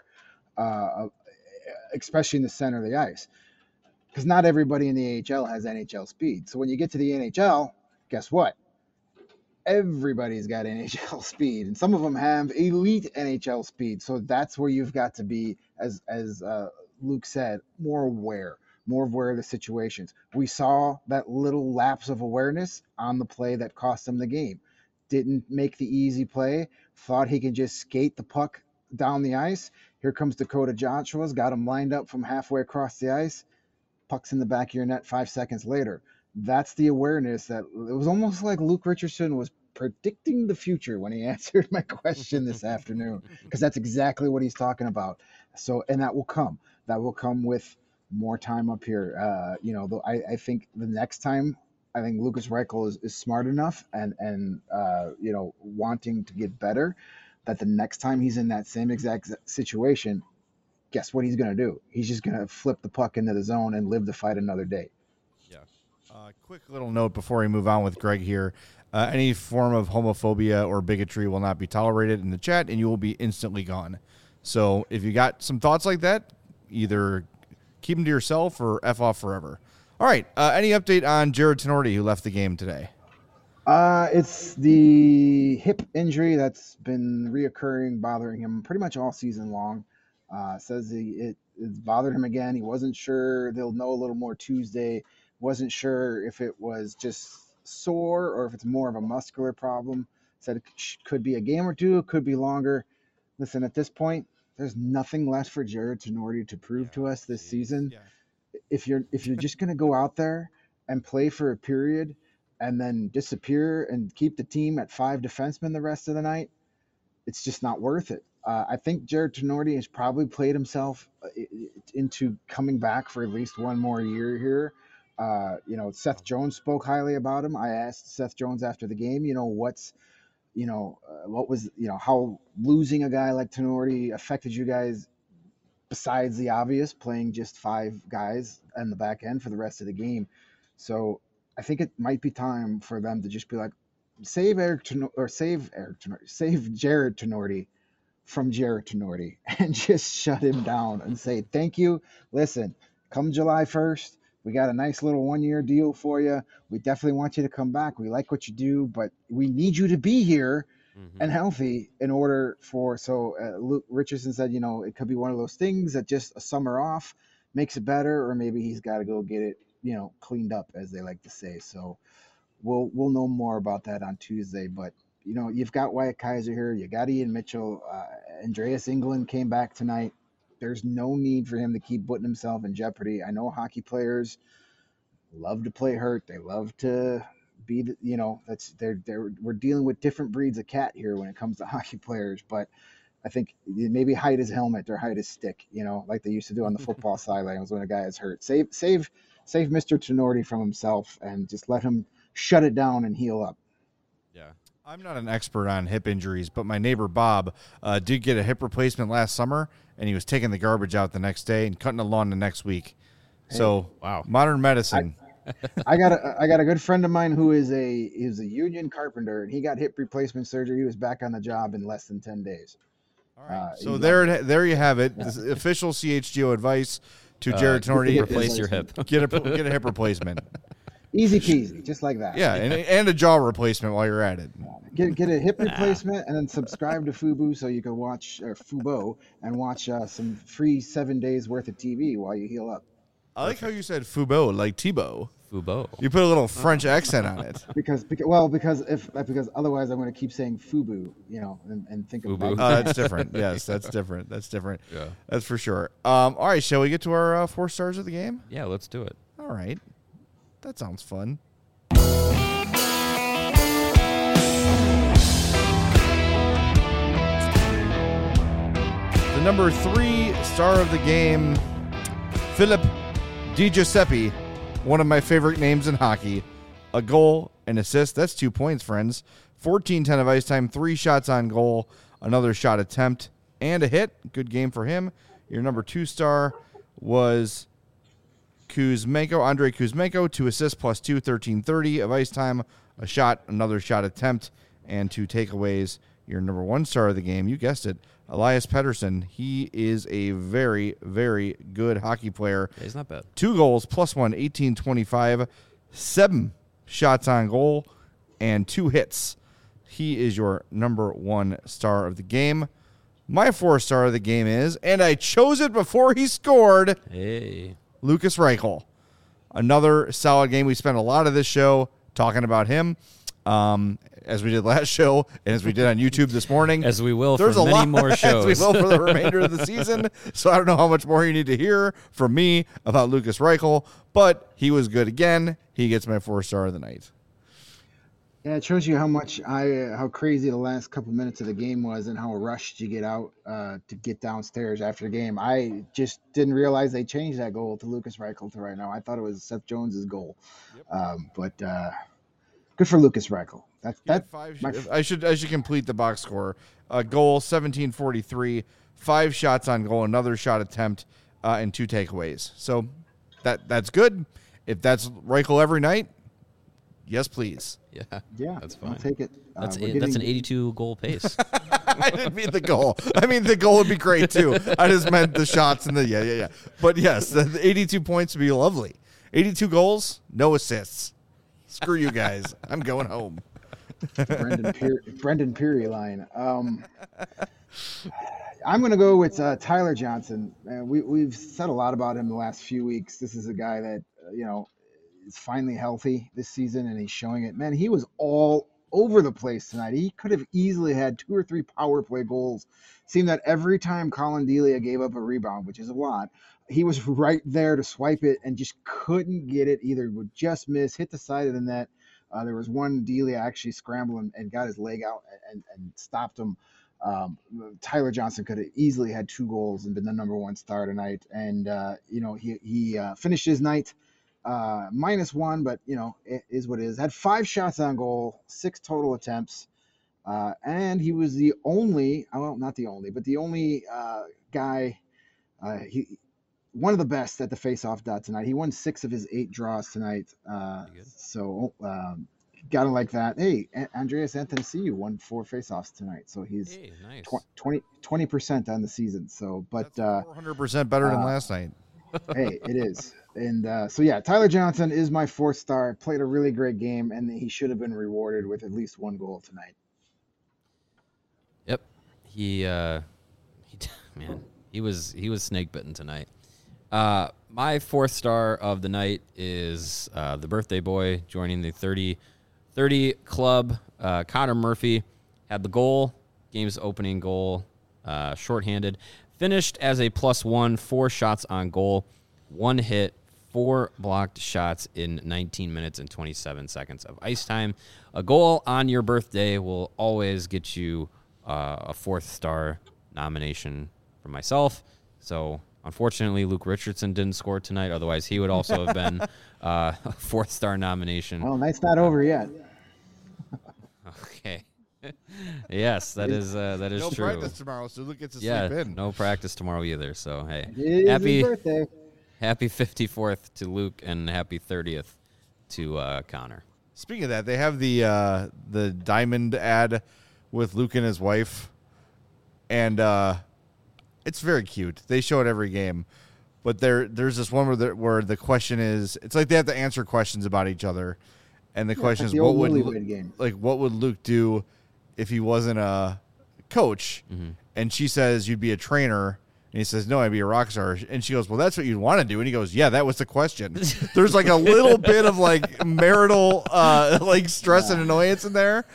especially in the center of the ice. Because not everybody in the AHL has NHL speed. So when you get to the NHL, guess what? Everybody's got NHL speed, and some of them have elite NHL speed. So that's where you've got to be, as Luke said, more aware of the situations. We saw that little lapse of awareness on the play that cost him the game. Didn't make the easy play, thought he could just skate the puck down the ice. Here comes Dakota Joshua's, got him lined up from halfway across the ice. Puck's in the back of your net 5 seconds later. That's the awareness that it was almost like Luke Richardson was predicting the future when he answered my question this afternoon, because that's exactly what he's talking about. So, and that will come. That will come with more time up here. I think the next time, I think Lukas Reichel is smart enough and wanting to get better, that the next time he's in that same exact situation, guess what he's going to do? He's just going to flip the puck into the zone and live to fight another day. Yeah. Quick little note before we move on with Greg here. Any form of homophobia or bigotry will not be tolerated in the chat, and you will be instantly gone. So if you got some thoughts like that, either keep them to yourself or F off forever. All right. Any update on Jared Tenorti, who left the game today? It's the hip injury that's been reoccurring, bothering him pretty much all season long. Says it bothered him again. He wasn't sure. They'll know a little more Tuesday. Wasn't sure if it was just sore or if it's more of a muscular problem. Said it could be a game or two. It could be longer. Listen, at this point, there's nothing left for Jared Tenorti to prove to us this season. Yeah. If you're just going to go out there and play for a period and then disappear and keep the team at 5 defensemen the rest of the night, it's just not worth it. I think Jared Tenorti has probably played himself into coming back for at least one more year here. Seth Jones spoke highly about him. I asked Seth Jones after the game, how losing a guy like Tenorti affected you guys besides the obvious, playing just 5 guys on the back end for the rest of the game. So I think it might be time for them to just be like, save Jared Tenorti from Jared Tenorti and just shut him down and say, thank you. Listen, come July 1st, we got a nice little 1-year deal for you. We definitely want you to come back. We like what you do, but we need you to be here and healthy in order for, Luke Richardson said, it could be one of those things that just a summer off makes it better, or maybe he's got to go get it, cleaned up, as they like to say. So we'll know more about that on Tuesday, but you've got Wyatt Kaiser here. You got Ian Mitchell. Andreas England came back tonight. There's no need for him to keep putting himself in jeopardy. I know hockey players love to play hurt. They love to be, we're dealing with different breeds of cat here when it comes to hockey players. But I think maybe hide his helmet or hide his stick, like they used to do on the football sidelines when a guy is hurt. Save Mr. Tenorti from himself and just let him shut it down and heal up. Yeah. I'm not an expert on hip injuries, but my neighbor Bob did get a hip replacement last summer, and he was taking the garbage out the next day and cutting the lawn the next week. So, wow, modern medicine. I got a good friend of mine who is a union carpenter, and he got hip replacement surgery. He was back on the job in less than 10 days. All right. So there you have it. This is official CHGO advice to Jared Tenorti. Replace your hip. Get a hip replacement. Easy peasy, just like that. Yeah, and a jaw replacement while you're at it. Get a hip replacement and then subscribe to Fubo so you can watch Fubo and watch some free 7 days worth of TV while you heal up. I like how you said Fubo, like Thibaut. Fubo. You put a little French accent on it. Because otherwise I'm going to keep saying Fubu, and think of it. That's different. Yes, that's different. Yeah, that's for sure. All right, shall we get to our 4 stars of the game? Yeah, let's do it. All right. That sounds fun. The number 3 star of the game, Philip Di Giuseppe, one of my favorite names in hockey. A goal, an assist. That's 2 points, friends. 14-10 of ice time, 3 shots on goal, another shot attempt, and a hit. Good game for him. Your number 2 star was Andrei Kuzmenko, 2 assists plus 2, 13-30 of ice time, a shot, another shot attempt, and 2 takeaways. Your number 1 star of the game, you guessed it, Elias Pettersson. He is a very, very good hockey player. Yeah, he's not bad. 2 goals, plus 1, 18-25, 7 shots on goal, and 2 hits. He is your number 1 star of the game. My 4 star of the game is, and I chose it before he scored, Lukas Reichel. Another solid game. We spent a lot of this show talking about him, as we did last show and as we did on YouTube this morning. As we will for many more shows. As we will for the remainder of the season. So I don't know how much more you need to hear from me about Lukas Reichel, but he was good again. He gets my 4 star of the night. Yeah, it shows you how crazy the last couple minutes of the game was and how rushed you get out to get downstairs after the game. I just didn't realize they changed that goal to Lukas Reichel to right now. I thought it was Seth Jones's goal. Yep. But good for Lukas Reichel. I should complete the box score. A goal, 17-43, 5 shots on goal, another shot attempt, and 2 takeaways. So that's good. If that's Reichel every night, Yes, please. Yeah, that's fine. I'll take it. That's We're that's an getting- 82 goal pace. I didn't mean the goal. I mean, the goal would be great, too. I just meant the shots and the, yeah. But, yes, the 82 points would be lovely. 82 goals, no assists. Screw you guys. I'm going home. Brendan Peary line. I'm going to go with Tyler Johnson. We've said a lot about him the last few weeks. This is a guy that, is finally healthy this season, and he's showing it. Man, he was all over the place tonight. He could have easily had 2 or 3 power play goals. Seemed that every time Colin Delia gave up a rebound, which is a lot, he was right there to swipe it and just couldn't get it. Either would just miss, hit the side of the net. There was one Delia actually scrambled and got his leg out and stopped him. Tyler Johnson could have easily had 2 goals and been the number 1 star tonight. And, he finished his night -1, but, it is what it is. Had 5 shots on goal, 6 total attempts. And he was the only, well, not the only, but the only guy, one of the best at the face-off dot tonight. He won 6 of his 8 draws tonight. So gotta like that. Hey, Andreas Anthony won 4 face-offs tonight. So he's nice. 20% on the season. So, but That's 400% better than last night. hey, it is. And so, yeah, Tyler Johnson is my 4th star. Played a really great game, and he should have been rewarded with at least 1 goal tonight. Yep. He was snake bitten tonight. My 4th star of the night is the birthday boy joining the 30 club. Connor Murphy had the goal, game's opening goal, shorthanded. Finished as a +1, 4 shots on goal, 1 hit, 4 blocked shots in 19 minutes and 27 seconds of ice time. A goal on your birthday will always get you a 4th star nomination from myself. So, unfortunately, Luke Richardson didn't score tonight. Otherwise, he would also have been a 4th star nomination. Well, night's not over yet. Okay. Yes, that is No true. practice tomorrow, so Luke gets to Yeah, sleep in. no practice tomorrow either. So hey, It is his birthday. happy 54th to Luke and happy 30th to Connor. Speaking of that, they have the diamond ad with Luke and his wife, and it's very cute. They show it every game, but there's this one where the question is, it's like they have to answer questions about each other, and the question like is, the old Newlywed Game. what would Luke do if he wasn't a coach? Mm-hmm. And she says, you'd be a trainer. And he says, no, I'd be a rock star. And she goes, well, that's what you'd want to do. And he goes, yeah, that was the question. There's like a little bit of like marital like stress and annoyance in there.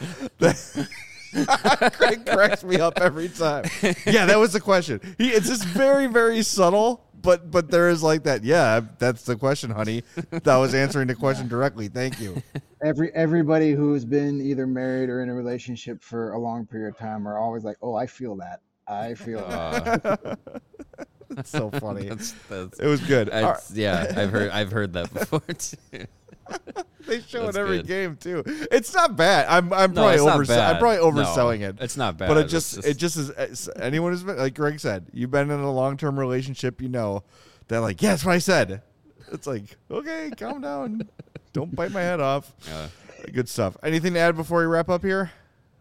Craig cracks me up every time. Yeah, that was the question. It's just very, very subtle, but there is like that. Yeah, that's the question, honey. That was answering the question directly. Thank you. Everybody who's been either married or in a relationship for a long period of time are always like, oh, I feel that. I feel that. That's so funny. That's It was good. yeah, I've heard that before too. They show That's it every good. game too. It's not bad. I'm No, probably it's not bad. I'm probably No, overselling it. it's not bad. But it It's just is. Anyone who's been, like Greg said, you've been in a long-term relationship, you know that like, yeah, that's what I said. It's like, okay, calm down. Don't bite my head off. Good stuff. Anything to add before we wrap up here?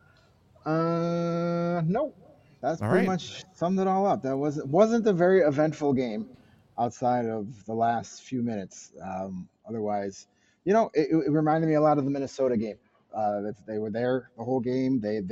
No. That's All pretty right. much summed it all up. That wasn't a very eventful game outside of the last few minutes. Otherwise, it reminded me a lot of the Minnesota game. They were there the whole game. They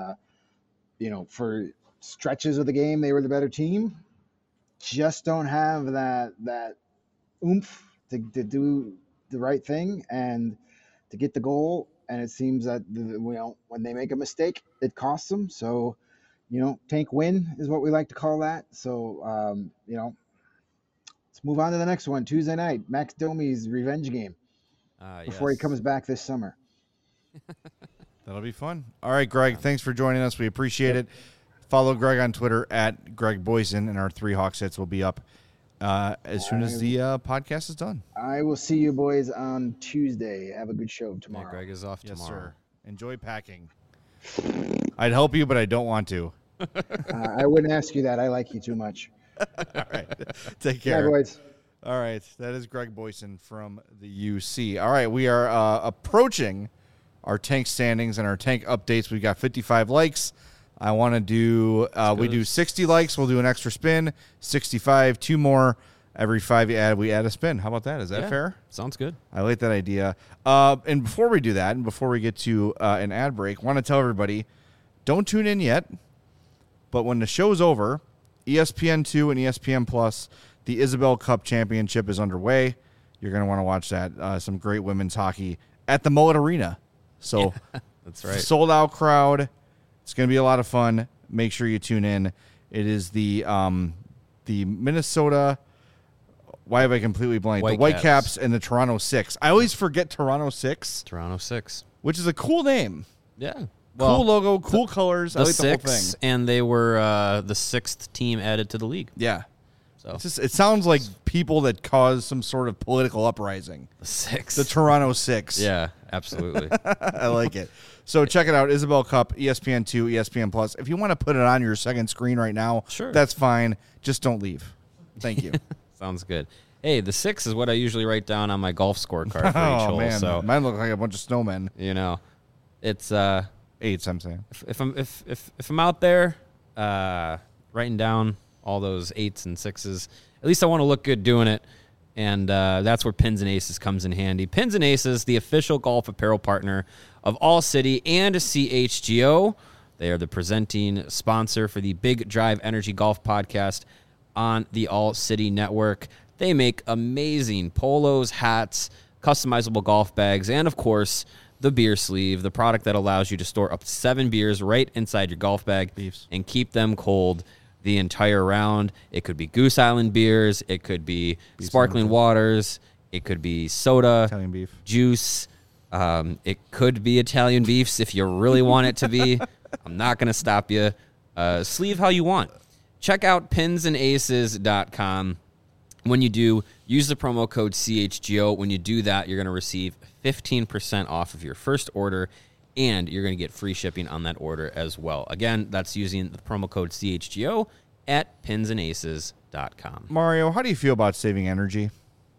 for stretches of the game, they were the better team. Just don't have that oomph to do the right thing and to get the goal. And it seems that when they make a mistake, it costs them. So, tank win is what we like to call that. So, let's move on to the next one. Tuesday night, Max Domi's revenge game before he comes back this summer. That'll be fun. All right, Greg, thanks for joining us. We appreciate it. Follow Greg on Twitter at Greg Boyson, and our 3 Hawks hits will be up as soon as the podcast is done. I will see you boys on Tuesday. Have a good show Yeah, tomorrow. Greg is off Yes, tomorrow. sir. Enjoy packing. I'd help you, but I don't want to. I wouldn't ask you that. I like you too much. All right. Take Bye, care. boys. All right, that is Greg Boyson from the UC. All right, we are approaching our tank standings and our tank updates. We've got 55 likes. I want to do, we do 60 likes. We'll do an extra spin, 65, 2 more. Every 5 you add, we add a spin. How about that? Is that fair? Sounds good. I like that idea. And before we do that, and before we get to an ad break, I want to tell everybody, don't tune in yet, but when the show's over, ESPN2 and ESPN Plus, the Isabel Cup Championship is underway. You're going to want to watch that. Some great women's hockey at the Mullet Arena. So that's right. Sold out crowd. It's going to be a lot of fun. Make sure you tune in. It is the Minnesota. Why have I completely blanked? The Whitecaps and the Toronto Six. I always forget Toronto Six. Toronto Six, which is a cool name. Yeah. Cool logo, cool colors. I like the whole thing. And they were the 6th team added to the league. Yeah. So it sounds like people that cause some sort of political uprising. The 6. The Toronto Six. Yeah, absolutely. I like it. So check it out, Isabel Cup, ESPN2, ESPN Plus. If you want to put it on your second screen right now, sure, that's fine. Just don't leave. Thank you. Sounds good. Hey, the 6 is what I usually write down on my golf scorecard for each hole. Man. So mine look like a bunch of snowmen. You know, it's 8s. I'm saying if I'm out there writing down all those 8s and 6s, at least I want to look good doing it. And that's where Pins and Aces comes in handy. Pins and Aces, the official golf apparel partner of All City and CHGO. They are the presenting sponsor for the Big Drive Energy Golf Podcast on the All City Network. They make amazing polos, hats, customizable golf bags, and, of course, the beer sleeve, the product that allows you to store up to 7 beers right inside your golf bag and keep them cold the entire round. It could be Goose Island beers. It could be sparkling waters. It could be soda, Italian beef, juice. It could be Italian beefs if you really want it to be. I'm not going to stop you. Sleeve how you want. Check out pinsandaces.com. When you do, use the promo code CHGO. When you do that, you're going to receive 15% off of your first order, and you're going to get free shipping on that order as well. Again, that's using the promo code CHGO at pinsandaces.com. Mario, how do you feel about saving energy?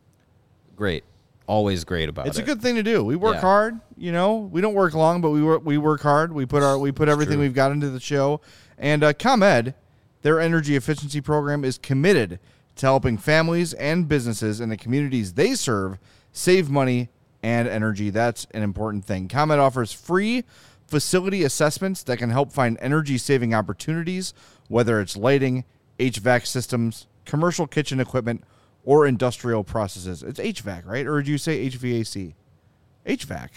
Great. Always great about it. It's a good thing to do. We work hard, you know. We don't work long, but we work hard. We put everything we've got into the show. And ComEd, their energy efficiency program, is committed to helping families and businesses in the communities they serve save money and energy. That's an important thing. ComEd offers free facility assessments that can help find energy-saving opportunities, whether it's lighting, HVAC systems, commercial kitchen equipment, or industrial processes. It's HVAC, right? Or did you say HVAC? HVAC.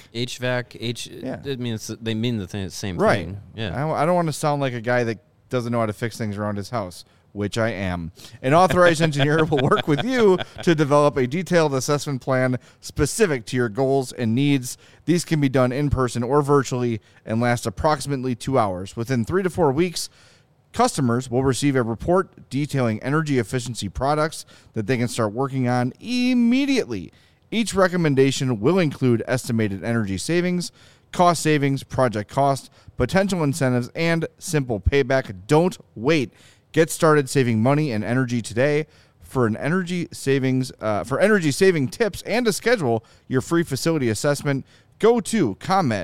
HVAC, they mean the same right. thing. Yeah. I don't want to sound like a guy that doesn't know how to fix things around his house, which I am. An authorized engineer will work with you to develop a detailed assessment plan specific to your goals and needs. These can be done in person or virtually and last approximately 2 hours. Within 3 to 4 weeks, customers will receive a report detailing energy efficiency products that they can start working on immediately. Each recommendation will include estimated energy savings, cost savings, project cost, potential incentives, and simple payback. Don't wait. Get started saving money and energy today. For energy saving tips and to schedule your free facility assessment, go to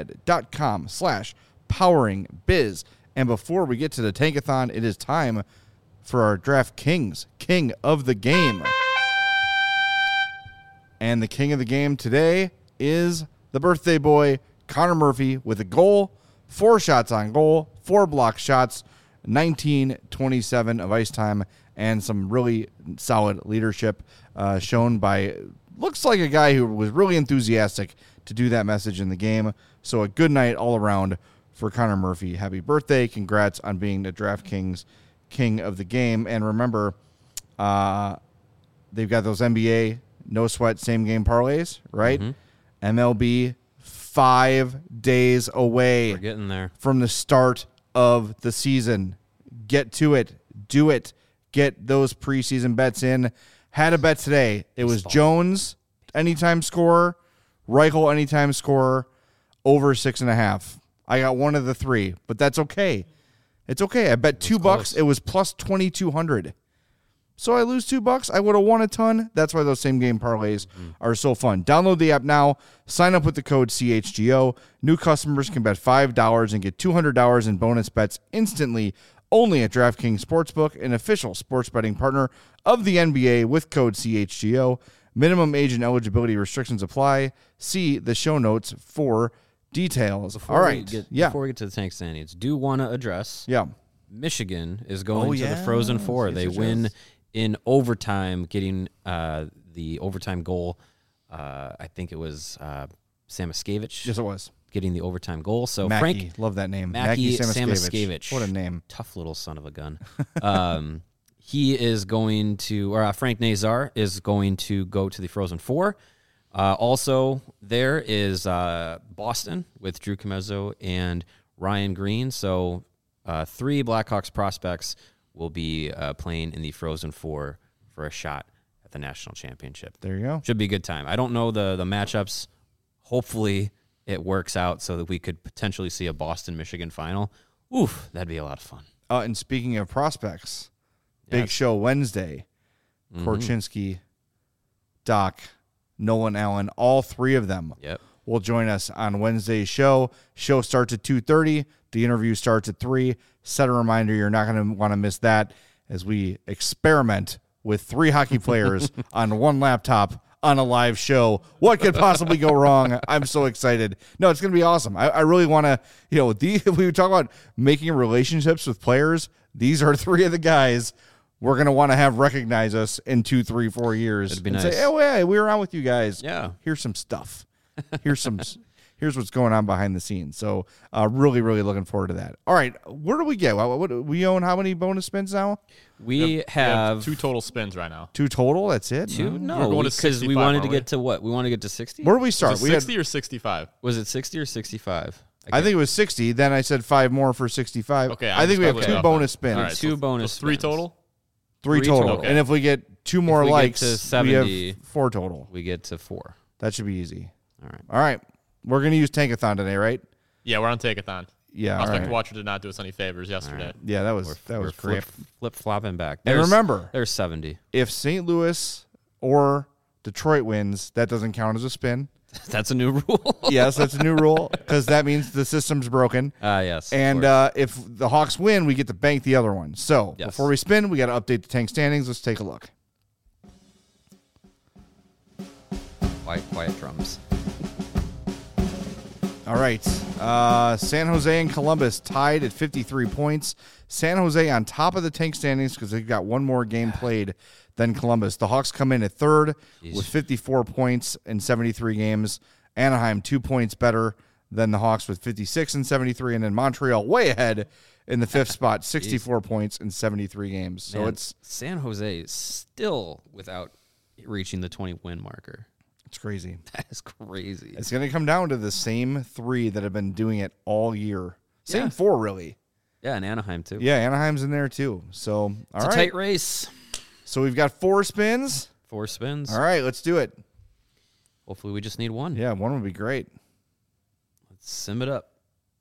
comed.com/poweringbiz. And before we get to the Tankathon, it is time for our DraftKings King of the Game. And the King of the Game today is the birthday boy, Connor Murphy, with a goal, 4 shots on goal, 4 block shots, 19-27 of ice time, and some really solid leadership shown by, looks like a guy who was really enthusiastic to do that message in the game. So a good night all around for Connor Murphy. Happy birthday. Congrats on being the DraftKings King of the Game. And remember, they've got those NBA no sweat same game parlays, right? Mm-hmm. MLB 5 days away. We're getting there. From the start of the season. Get to it. Do it. Get those preseason bets in. Had a bet today. It was Jones, anytime scorer, Reichel, anytime scorer, over 6.5. I got one of the 3, but that's okay. It's okay. I bet $2. It was plus 2,200. so I lose $2. I would have won a ton. That's why those same game parlays are so fun. Download the app now. Sign up with the code CHGO. New customers can bet $5 and get $200 in bonus bets instantly only at DraftKings Sportsbook, an official sports betting partner of the NBA with code CHGO. Minimum age and eligibility restrictions apply. See the show notes for details. Before we get to the tank standings, do want to address Michigan is going to the Frozen Four. They win in overtime, getting the overtime goal. I think it was Samoskevich. Yes, it was. Getting the overtime goal. So Mackie, Frank, love that name. Mackie Samoskevich. What a name. Tough little son of a gun. He is going to, or Frank Nazar is going to go to the Frozen Four. Also, there is Boston with Drew Comezzo and Ryan Green. So 3 Blackhawks prospects will be playing in the Frozen Four for a shot at the national championship. There you go. Should be a good time. I don't know the matchups. Hopefully it works out so that we could potentially see a Boston-Michigan final. Oof, that'd be a lot of fun. And speaking of prospects, big show Wednesday. Korchinski, Doc, Nolan Allen, all 3 of them will join us on Wednesday's show. Show starts at 2:30. The interview starts at 3. Set a reminder, you're not going to want to miss that as we experiment with 3 hockey players on one laptop on a live show. What could possibly go wrong? I'm so excited. No, it's going to be awesome. I really want to, if we talk about making relationships with players, these are 3 of the guys we're going to want to have recognize us in 2, 3, 4 years. It'd be and nice. Say, oh, yeah, we were on with you guys. Yeah. Here's some stuff. Here's what's going on behind the scenes. So really, really looking forward to that. All right. Where do we get? What we own how many bonus spins now? We have 2 total spins right now. 2 total? That's it? 2? No, We're going to because we 65, wanted to aren't we? get to what? We want to get to 60? Where do we start? Was it 60 or 65? Was it 60 or 65? I think it was 60. Then I said 5 more for 65. Okay, I think we have just 2 bonus spins. All right, 2 bonus so 3 spins. total? 3 3 total. total. And if we get 2 more we get likes, to we 70, have 4 total. We get to 4. That should be easy. All right. We're going to use Tankathon today, right? Yeah, we're on Tankathon. Yeah. Prospect all right. Watcher did not do us any favors yesterday. Yeah, that was great. Flip flopping back. And remember, there's 70. if St. Louis or Detroit wins, that doesn't count as a spin. That's a new rule. Yes, that's a new rule because that means the system's broken. Yes. And if the Hawks win, we get to bank the other one. So before we spin, we got to update the tank standings. Let's take a look. Quiet drums. All right. San Jose and Columbus tied at 53 points. San Jose on top of the tank standings because they've got one more game played than Columbus. The Hawks come in at third with 54 points in 73 games. Anaheim 2 points better than the Hawks with 56 and 73. And then Montreal way ahead in the 5th spot, 64 points in 73 games. So it's San Jose is still without reaching the 20-win marker. It's crazy. That is crazy. It's going to come down to the same 3 that have been doing it all year. Same Yeah. 4, really. Yeah, and Anaheim, too. Yeah, Anaheim's in there, too. So, It's a tight race. So we've got 4 spins. 4 spins. All right, let's do it. Hopefully we just need 1. Yeah, 1 would be great. Let's sim it up.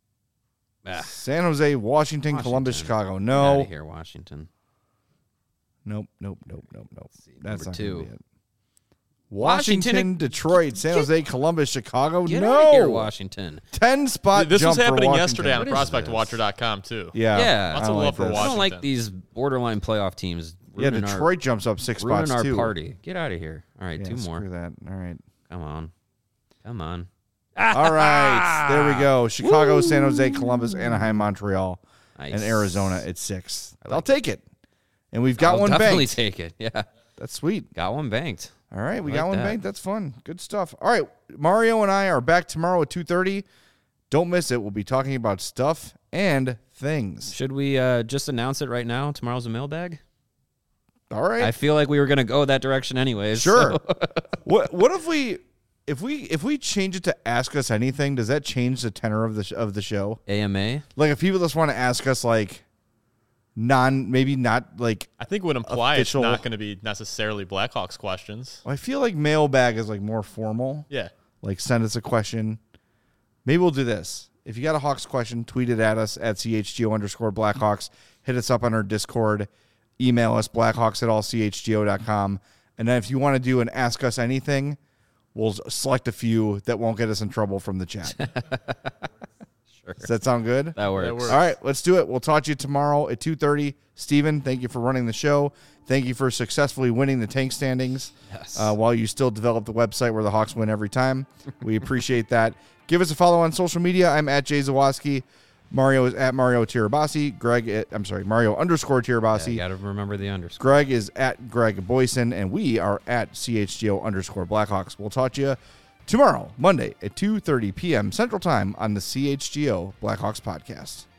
San Jose, Washington, Columbus, Chicago. Get out No. of here, Washington. Nope. That's number not 2. gonna be it. Washington, Detroit, San Jose, Columbus, Chicago. Get No. out of here, Washington. 10-spot This was jump for happening Washington. yesterday on What is ProspectWatcher.com, too. Yeah. Yeah. Lots I of don't love like for this. I don't Washington. like these borderline playoff teams. Yeah, ruining Detroit jumps up 6 ruining spots, our too. party. Get out of here. All right, Yeah, 2 more. Screw that. All right. Come on. All right. There we go. Chicago, San Jose, Columbus, Anaheim, Montreal, Nice. and Arizona at 6. I'll take it. And we've got I'll one definitely banked. take it. Yeah. That's sweet. Got one banked. All right, we I got like one that. banked. That's fun. Good stuff. All right, Mario and I are back tomorrow at 2:30. Don't miss it. We'll be talking about stuff and things. Should we just announce it right now? Tomorrow's a mailbag? All right. I feel like we were going to go that direction anyways. Sure. so- What if we change it to ask us anything? Does that change the tenor of the show? AMA? Like if people just want to ask us like maybe not like. I think it would imply Official- it's not going to be necessarily Blackhawks questions. I feel like mailbag is like more formal. Yeah. Like send us a question. Maybe we'll do this. If you got a Hawks question, tweet it at us at CHGO_Blackhawks. Hit us up on our Discord. email us, blackhawks@allchgo.com. And then if you want to do an Ask Us Anything, we'll select a few that won't get us in trouble from the chat. Sure. Does that sound good? That works. works. All right, let's do it. We'll talk to you tomorrow at 2:30. Steven, thank you for running the show. Thank you for successfully winning the tank standings while you still develop the website where the Hawks win every time. We appreciate that. Give us a follow on social media. I'm at Jay Zawoski. Mario is at Mario Tirabassi. Mario_Tirabassi. You got to remember the underscore. Greg is at Greg Boyson, and we are at CHGO_Blackhawks. We'll talk to you tomorrow, Monday at 2:30 p.m. Central Time on the CHGO Blackhawks podcast.